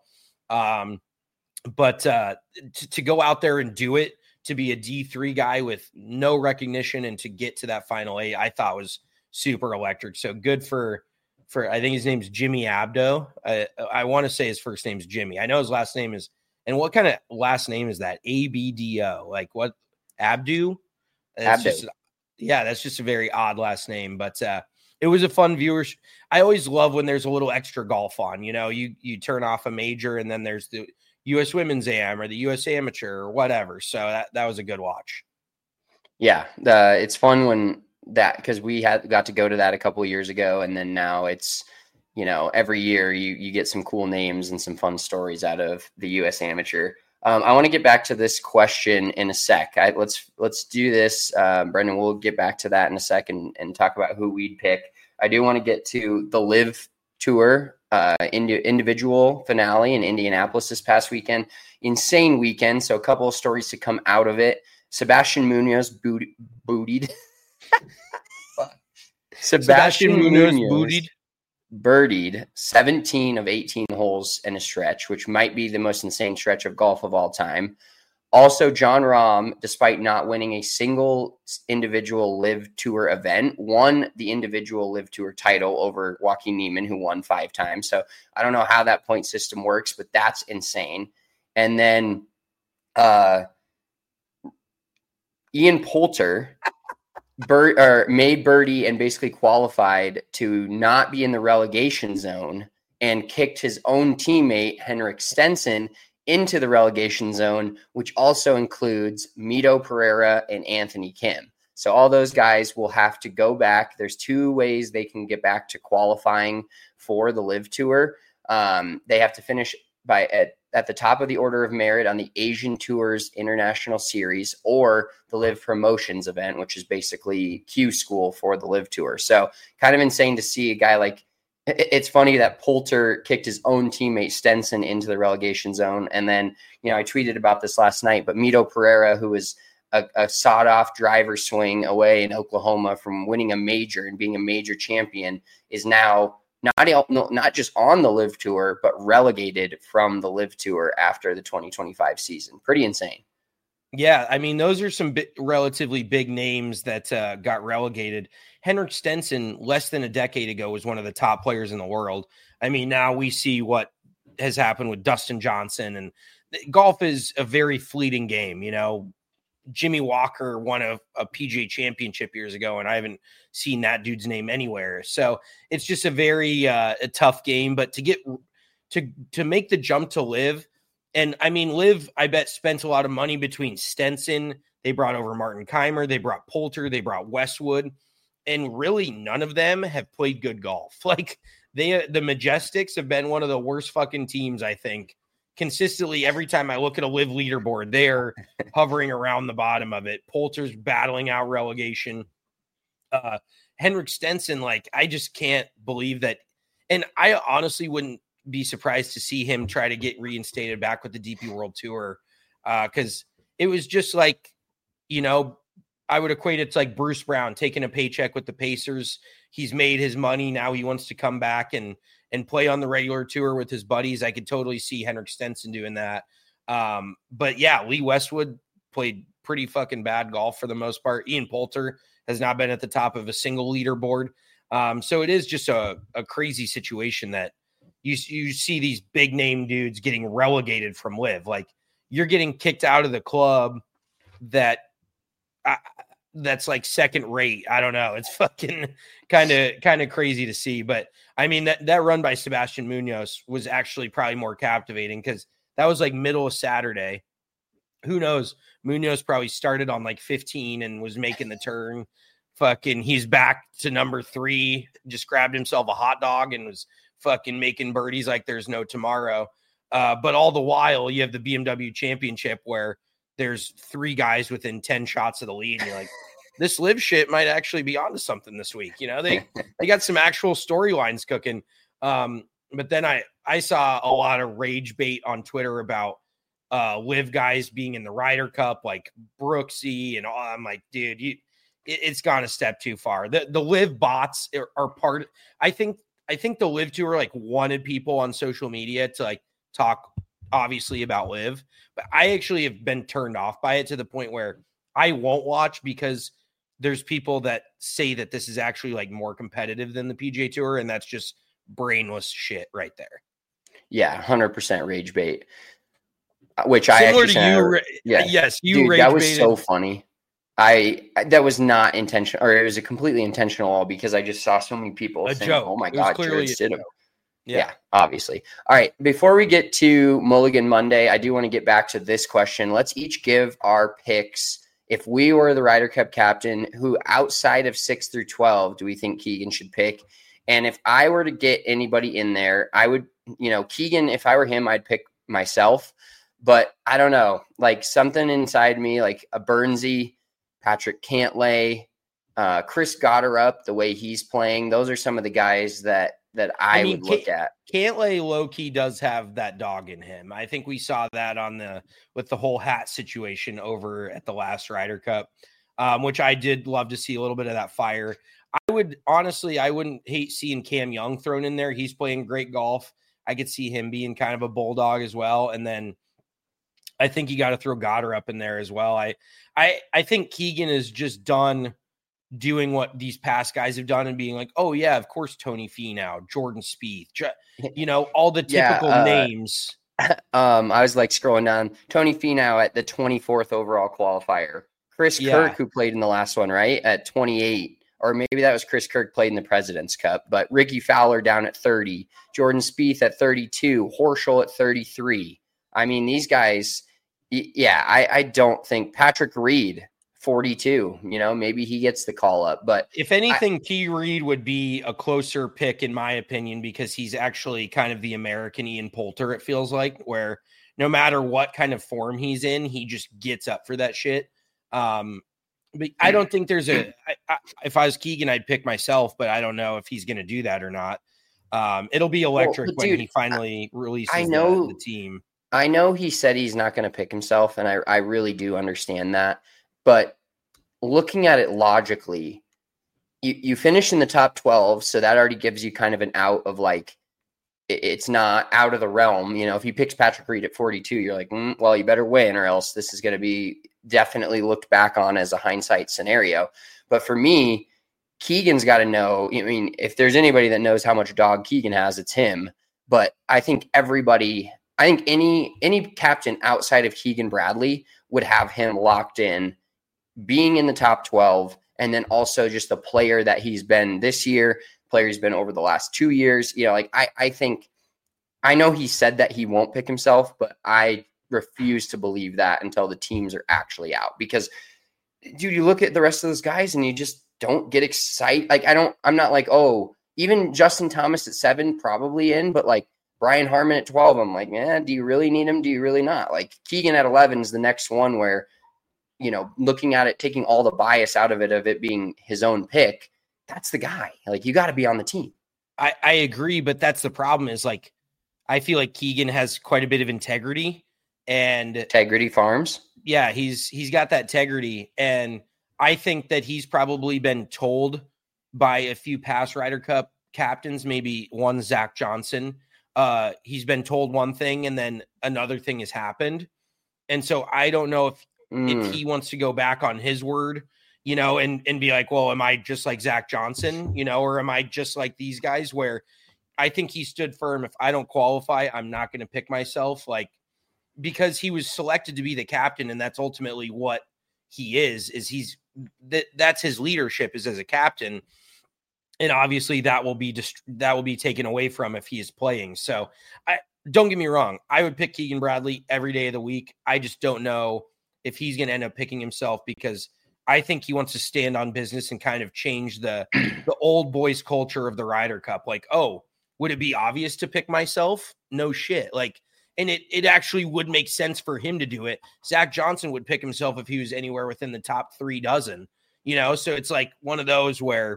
But to go out there and do it, to be a D3 guy with no recognition and to get to that final 8, I thought was super electric. So good for I think his name's Jimmy Abdo. I want to say his first name's Jimmy. I know his last name is, and what kind of last name is that? ABDO. Like what? Abdu? That's just a very odd last name, but it it was a fun viewership. I always love when there's a little extra golf on, you turn off a major and then there's the U.S. Women's Am or the U.S. Amateur or whatever. So that was a good watch. Yeah. It's fun when because we got to go to that a couple of years ago. And then now it's, every year you get some cool names and some fun stories out of the U.S. Amateur. I want to get back to this question in a sec. Let's do this. Brendan, we'll get back to that in a second and talk about who we'd pick. I do want to get to the Live Tour individual finale in Indianapolis this past weekend. Insane weekend. So a couple of stories to come out of it. Sebastian Munoz bootied. Sebastian Munoz bootied. Birdied 17 of 18 holes in a stretch, which might be the most insane stretch of golf of all time. Also, Jon Rahm, despite not winning a single individual Live Tour event, won the individual Live Tour title over Joaquin Niemann, who won 5 times. So I don't know how that point system works, but that's insane. And then Ian Poulter made birdie and basically qualified to not be in the relegation zone and kicked his own teammate, Henrik Stenson, into the relegation zone, which also includes Mito Pereira and Anthony Kim. So all those guys will have to go back. There's 2 ways they can get back to qualifying for the Live Tour. They have to finish at the top of the order of merit on the Asian Tours International Series or the Live Promotions event, which is basically Q school for the Live Tour. So kind of insane to see a guy like, it's funny that Poulter kicked his own teammate Stenson into the relegation zone. And then, I tweeted about this last night, but Mito Pereira, who was a sawed-off driver swing away in Oklahoma from winning a major and being a major champion, is now not just on the Live Tour, but relegated from the Live Tour after the 2025 season. Pretty insane. Yeah, I mean, those are some relatively big names that got relegated. Henrik Stenson, less than a decade ago, was one of the top players in the world. I mean, now we see what has happened with Dustin Johnson, and golf is a very fleeting game. Jimmy Walker won a PGA championship years ago, and I haven't seen that dude's name anywhere. So it's just a very a tough game. But to get to make the jump to Live, and I mean, Live, I bet spent a lot of money between Stenson. They brought over Martin Keimer. They brought Poulter. They brought Westwood. And really none of them have played good golf. Like the Majestics have been one of the worst fucking teams, I think. Consistently, every time I look at a Live leaderboard, they're hovering around the bottom of it. Poulter's battling out relegation. Henrik Stenson, I just can't believe that. And I honestly wouldn't be surprised to see him try to get reinstated back with the DP World Tour. Because it was just I would equate it to like Bruce Brown taking a paycheck with the Pacers. He's made his money. Now he wants to come back and play on the regular tour with his buddies. I could totally see Henrik Stenson doing that. But yeah, Lee Westwood played pretty fucking bad golf for the most part. Ian Poulter has not been at the top of a single leaderboard. So it is just a crazy situation that you see these big name dudes getting relegated from Live. Like you're getting kicked out of the club that's like second rate. I don't know. It's fucking kind of crazy to see. But I mean, that run by Sebastian Munoz was actually probably more captivating because that was like middle of Saturday. Who knows? Munoz probably started on like 15 and was making the turn. Fucking, he's back to number 3, just grabbed himself a hot dog and was fucking making birdies like there's no tomorrow. But all the while, you have the BMW Championship where there's 3 guys within 10 shots of the lead. And you're like, this Live shit might actually be onto something this week. They got some actual storylines cooking. But then I saw a lot of rage bait on Twitter about Live guys being in the Ryder Cup, like Brooksy and all. I'm like, dude, it's gone a step too far. The Live bots are part. I think the Live Tour like wanted people on social media to like talk obviously about Live, but I actually have been turned off by it to the point where I won't watch because there's people that say that this is actually like more competitive than the PGA Tour, and that's just brainless shit right there. Yeah, 100% rage bait. Which Similar I actually to you, yes, you dude, rage that was baited. so funny. That was not intentional, or it was a completely intentional all because I just saw so many people saying, joke. "Oh my It was God, clearly Jared Stidham." Yeah, obviously. All right. Before we get to Mulligan Monday, I do want to get back to this question. Let's each give our picks. If we were the Ryder Cup captain, who outside of 6 through 12 do we think Keegan should pick? And if I were to get anybody in there, I would, Keegan, if I were him, I'd pick myself. But I don't know, like something inside me, like a Burnsy, Patrick Cantlay, Chris Gotterup, the way he's playing. Those are some of the guys that I would look at. Cantlay low-key does have that dog in him. I think we saw that with the whole hat situation over at the last Ryder Cup, which I did love to see a little bit of that fire. I wouldn't hate seeing Cam Young thrown in there. He's playing great golf. I could see him being kind of a bulldog as well. And then I think you got to throw Gotterup in there as well. I think Keegan is just done doing what these past guys have done and being like, oh yeah, of course, Tony Finau, Jordan Spieth, all the typical names. I was like scrolling down. Tony Finau at the 24th overall qualifier. Chris Kirk, who played in the last one, right, at 28. Or maybe that was Chris Kirk played in the President's Cup. But Ricky Fowler down at 30. Jordan Spieth at 32. Horschel at 33. I mean, these guys, I don't think Patrick Reed, 42, maybe he gets the call up. But if anything, P. Reed would be a closer pick, in my opinion, because he's actually kind of the American Ian Poulter, it feels like, where no matter what kind of form he's in, he just gets up for that shit. But I don't think there's if I was Keegan, I'd pick myself, but I don't know if he's going to do that or not. It'll be electric when he finally releases the team. I know he said he's not going to pick himself, and I really do understand that. But looking at it logically, you finish in the top 12, so that already gives you kind of an out of like, it's not out of the realm. If he picks Patrick Reed at 42, you're like, well, you better win or else this is going to be definitely looked back on as a hindsight scenario. But for me, Keegan's got to know, if there's anybody that knows how much dog Keegan has, it's him. But I think any captain outside of Keegan Bradley would have him locked in, being in the top 12, and then also just the player that he's been this year, player he's been over the last 2 years. I think, I know he said that he won't pick himself, but I refuse to believe that until the teams are actually out. Because, dude, you look at the rest of those guys and you just don't get excited. Like, I'm not like, oh, even Justin Thomas at 7, probably in, but like Brian Harman at 12, I'm like, man, do you really need him? Do you really not? Like Keegan at 11 is the next one where, looking at it, taking all the bias out of it being his own pick, that's the guy. Like, you got to be on the team. I agree, but that's the problem is, like, I feel like Keegan has quite a bit of integrity. And Integrity Farms. Yeah, he's got that integrity. And I think that he's probably been told by a few past Ryder Cup captains, maybe one Zach Johnson. He's been told one thing and then another thing has happened. And so I don't know if he wants to go back on his word, and be like, well, am I just like Zach Johnson, or am I just like these guys, where I think he stood firm. If I don't qualify, I'm not going to pick myself, like, because he was selected to be the captain. And that's ultimately what he is that's his leadership is as a captain. And obviously that will be taken away from if he is playing. So don't get me wrong. I would pick Keegan Bradley every day of the week. I just don't know if he's going to end up picking himself, because I think he wants to stand on business and kind of change the old boys culture of the Ryder Cup. Like, oh, would it be obvious to pick myself? No shit. Like, and it actually would make sense for him to do it. Zach Johnson would pick himself if he was anywhere within the top 3 dozen, So it's like one of those where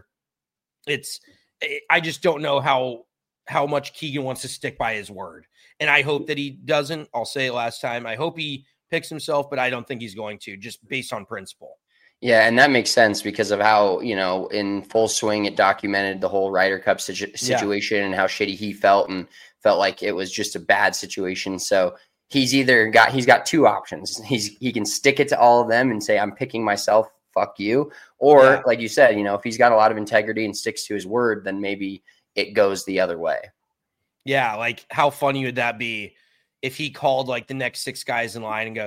I just don't know how much Keegan wants to stick by his word. And I hope that he doesn't. I'll say it last time. I hope he picks himself, but I don't think he's going to, just based on principle. Yeah, and that makes sense because of how, in Full Swing, it documented the whole Ryder Cup situation and how shitty he felt and felt like it was just a bad situation. So he's got 2 options. He can stick it to all of them and say, I'm picking myself, fuck you. Or like you said, if he's got a lot of integrity and sticks to his word, then maybe it goes the other way. Yeah, like how funny would that be if he called like the next 6 guys in line and goes,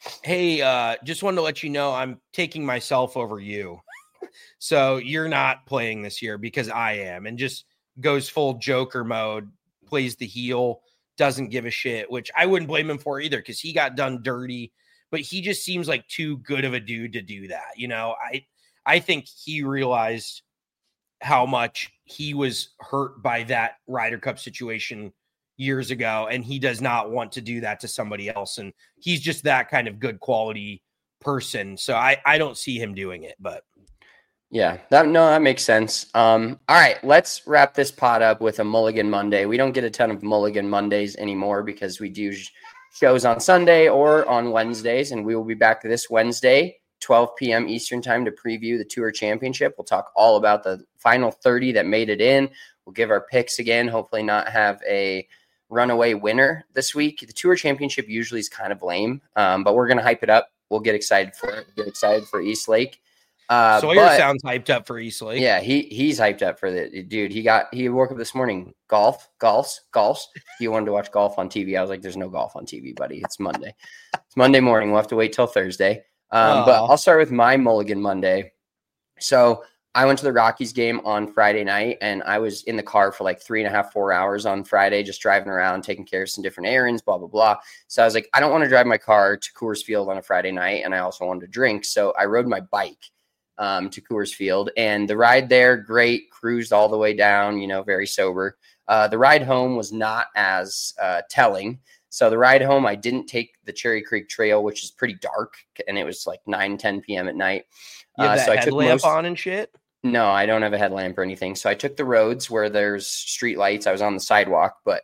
Hey, just wanted to let you know I'm taking myself over you. So you're not playing this year because I am, and just goes full Joker mode, plays the heel, doesn't give a shit, which I wouldn't blame him for either because he got done dirty, but he just seems like too good of a dude to do that. You know, I think he realized how much he was hurt by that Ryder Cup situation years ago, and he does not want to do that to somebody else. And he's just that kind of good quality person. So I don't see him doing it, but yeah, that makes sense. All right, let's wrap this pod up with a Mulligan Monday. We don't get a ton of Mulligan Mondays anymore because we do shows on Sunday or on Wednesdays, and we will be back this Wednesday, 12 p.m. Eastern time, to preview the Tour Championship. We'll talk all about the final 30 that made it in. We'll give our picks again, hopefully not have a runaway winner this week. The Tour Championship usually is kind of lame, but we're going to hype it up. We'll get excited for it. Get excited for East Lake. Sawyer sounds hyped up for East Lake. Yeah, he's hyped up for the dude. He woke up this morning. Golf. He wanted to watch golf on TV. I was like, there's no golf on TV, buddy. It's Monday. It's Monday morning. We'll have to wait till Thursday. But I'll start with my Mulligan Monday. So I went to the Rockies game on Friday night, and I was in the car for like 3.5, 4 hours on Friday, just driving around, taking care of some different errands, blah, blah, blah. So I was like, I don't want to drive my car to Coors Field on a Friday night, and I also wanted to drink. So I rode my bike to Coors Field, and the ride there, great, cruised all the way down, very sober. The ride home was not as telling. So the ride home, I didn't take the Cherry Creek Trail, which is pretty dark, and it was like 9, 10 p.m. at night. You have that so I headlamp on and shit? No, I don't have a headlamp or anything. So I took the roads where there's street lights. I was on the sidewalk, but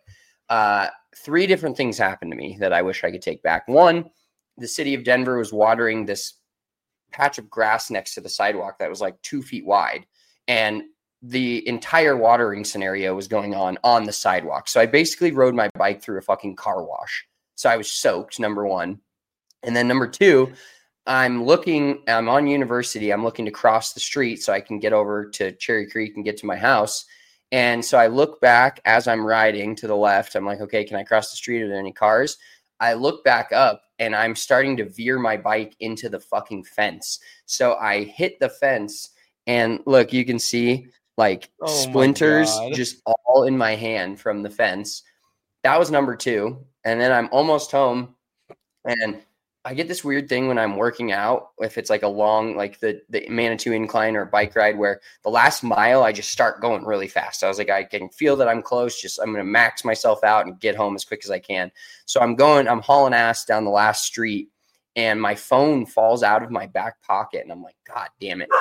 3 different things happened to me that I wish I could take back. One, the city of Denver was watering this patch of grass next to the sidewalk that was like 2 feet wide, and the entire watering scenario was going on the sidewalk. So I basically rode my bike through a fucking car wash. So I was soaked, number one. And then number two, I'm on University. I'm looking to cross the street so I can get over to Cherry Creek and get to my house. And so I look back as I'm riding to the left. I'm like, okay, can I cross the street? Are there any cars? I look back up, and I'm starting to veer my bike into the fucking fence. So I hit the fence, and look, you can see like splinters just all in my hand from the fence. That was number 2. And then I'm almost home, and I get this weird thing when I'm working out, if it's like a long, like the Manitou incline or bike ride, where the last mile, I just start going really fast. I was like, I can feel that I'm close. I'm going to max myself out and get home as quick as I can. So I'm hauling ass down the last street, and my phone falls out of my back pocket. And I'm like, God damn it.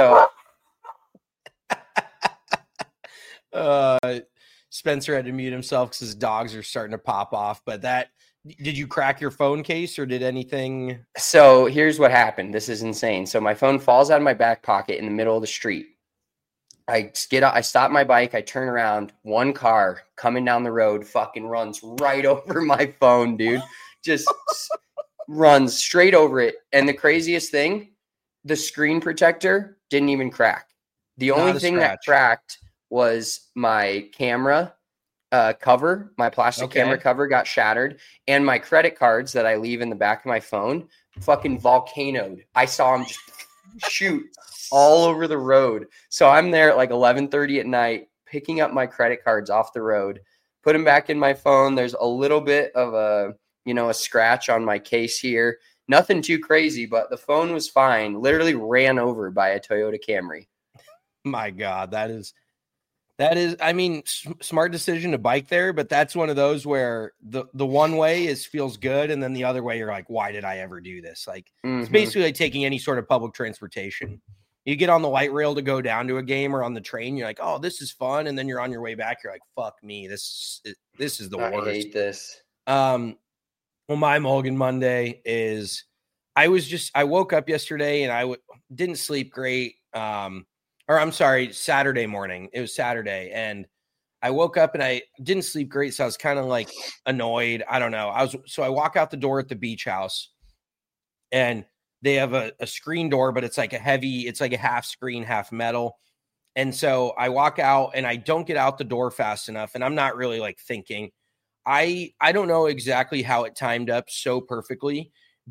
So Spencer had to mute himself because his dogs are starting to pop off, but did you crack your phone case or did anything? So here's what happened. This is insane. So my phone falls out of my back pocket in the middle of the street. I stop my bike. I turn around. One car coming down the road fucking runs right over my phone, dude. Just runs straight over it. And the craziest thing, the screen protector didn't even crack. The only thing that cracked was my camera cover. My plastic camera cover got shattered, and my credit cards that I leave in the back of my phone fucking volcanoed. I saw them just shoot all over the road. So I'm there at like 11:30 at night, picking up my credit cards off the road, put them back in my phone. There's a little bit of a scratch on my case here. Nothing too crazy, but the phone was fine. Literally ran over by a Toyota Camry. My God, that is, I mean, smart decision to bike there, but that's one of those where the one way feels good, and then the other way you're like, why did I ever do this? Like, It's basically like taking any sort of public transportation. You get on the light rail to go down to a game, or on the train, you're like, oh, this is fun, and then you're on your way back, you're like, fuck me, this is the worst. I hate this. Well, my Mulligan Monday is I woke up yesterday and I didn't sleep great. Saturday morning. It was Saturday, and I woke up and I didn't sleep great. So I was kind of like annoyed. I don't know. So I walk out the door at the beach house, and they have a screen door, but it's like a half screen, half metal. And so I walk out and I don't get out the door fast enough. And I'm not really like thinking. I don't know exactly how it timed up so perfectly,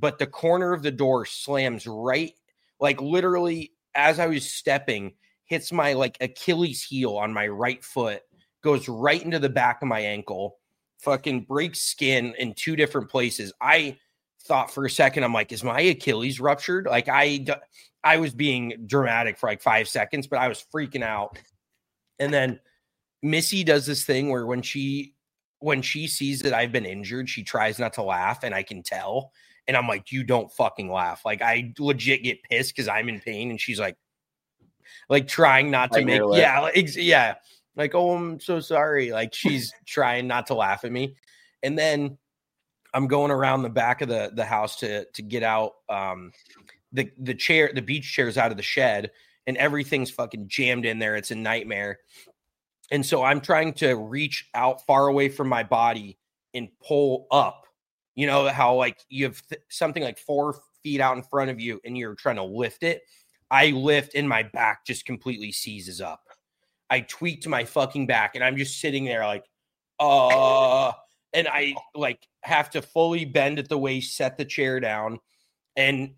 but the corner of the door slams right, like literally as I was stepping, hits my like Achilles heel on my right foot, goes right into the back of my ankle, fucking breaks skin in 2 different places. I thought for a second, I'm like, is my Achilles ruptured? Like I was being dramatic for like 5 seconds, but I was freaking out. And then Missy does this thing where when she sees that I've been injured, she tries not to laugh, and I can tell. And I'm like, you don't fucking laugh. Like I legit get pissed because I'm in pain, and she's like trying not to make, like, oh, I'm so sorry. Like she's trying not to laugh at me. And then I'm going around the back of the house to get out the beach chairs out of the shed, and everything's fucking jammed in there. It's a nightmare. And so I'm trying to reach out far away from my body and pull up. You know how like you have something like 4 feet out in front of you and you're trying to lift it. I lift and my back just completely seizes up. I tweaked my fucking back and I'm just sitting there like, and I like have to fully bend at the waist, set the chair down. And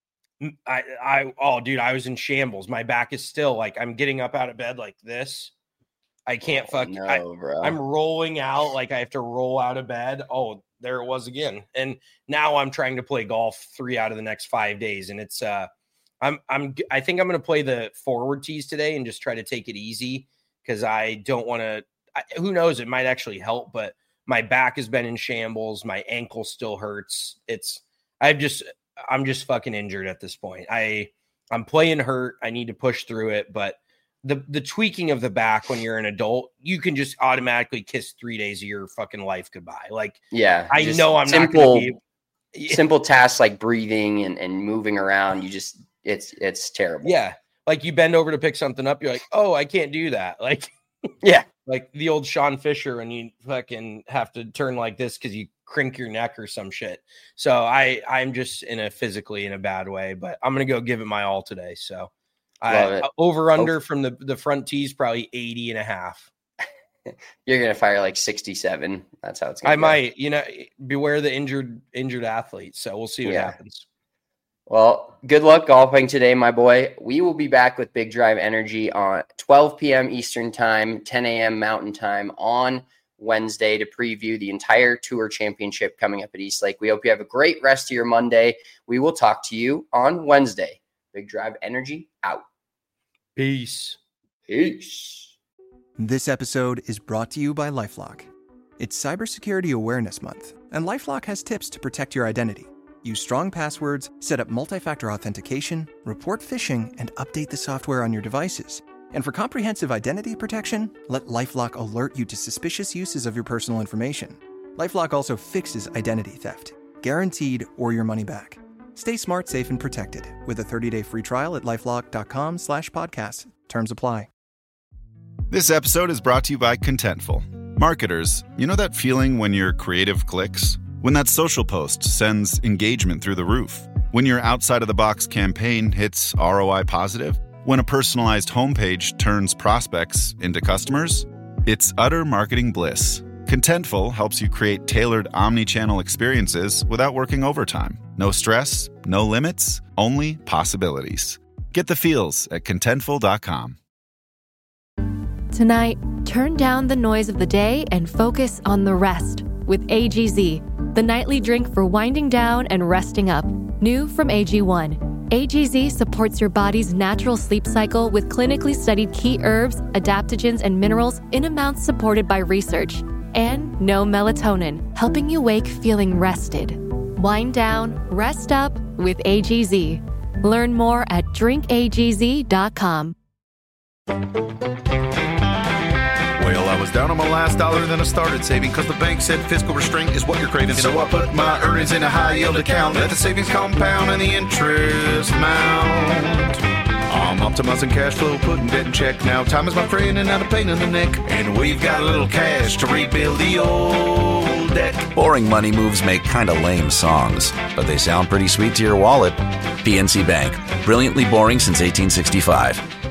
I was in shambles. My back is still like, I'm getting up out of bed like this. I can't bro. I'm rolling out like I have to roll out of bed. Oh, there it was again. And now I'm trying to play golf 3 out of the next 5 days. And it's I think I'm going to play the forward tees today and just try to take it easy because I don't want to. Who knows? It might actually help, but my back has been in shambles. My ankle still hurts. I'm just fucking injured at this point. I'm playing hurt. I need to push through it, but the tweaking of the back when you're an adult, you can just automatically kiss 3 days of your fucking life goodbye. Like, yeah, I know I'm not going to be simple tasks like breathing and moving around. It's terrible. Yeah. Like you bend over to pick something up. You're like, oh, I can't do that. Like, yeah. Like the old Sean Fisher when you fucking have to turn like this because you crink your neck or some shit. So I'm just physically in a bad way, but I'm going to go give it my all today. So over under from the front tees, probably 80.5. You're going to fire like 67. That's how it's going to go. I might, beware the injured athlete. So we'll see what happens. Well, good luck golfing today, my boy. We will be back with Big Drive Energy on 12 p.m. Eastern time, 10 a.m. Mountain time on Wednesday to preview the entire Tour Championship coming up at East Lake. We hope you have a great rest of your Monday. We will talk to you on Wednesday. Big Drive Energy out. Peace. This episode is brought to you by LifeLock. It's Cybersecurity Awareness Month, and LifeLock has tips to protect your identity. Use strong passwords, set up multi-factor authentication, report phishing, and update the software on your devices. And for comprehensive identity protection, let LifeLock alert you to suspicious uses of your personal information. LifeLock also fixes identity theft, guaranteed or your money back. Stay smart, safe, and protected with a 30-day free trial at LifeLock.com/podcast. Terms apply. This episode is brought to you by Contentful. Marketers, you know that feeling when your creative clicks? When that social post sends engagement through the roof? When your outside-of-the-box campaign hits ROI positive? When a personalized homepage turns prospects into customers? It's utter marketing bliss. Contentful helps you create tailored omni-channel experiences without working overtime. No stress, no limits, only possibilities. Get the feels at Contentful.com. Tonight, turn down the noise of the day and focus on the rest with AGZ, the nightly drink for winding down and resting up. New from AG1. AGZ supports your body's natural sleep cycle with clinically studied key herbs, adaptogens, and minerals in amounts supported by research. And no melatonin, helping you wake feeling rested. Wind down, rest up with AGZ. Learn more at drinkagz.com. Well, I was down on my last dollar and then I started saving because the bank said fiscal restraint is what you're craving. So I put my earnings in a high yield account. Let the savings compound and the interest mount. I'm optimizing cash flow, putting debt in check. Now time is my friend and not a pain in the neck. And we've got a little cash to rebuild the old deck. Boring money moves make kind of lame songs, but they sound pretty sweet to your wallet. PNC Bank. Brilliantly boring since 1865.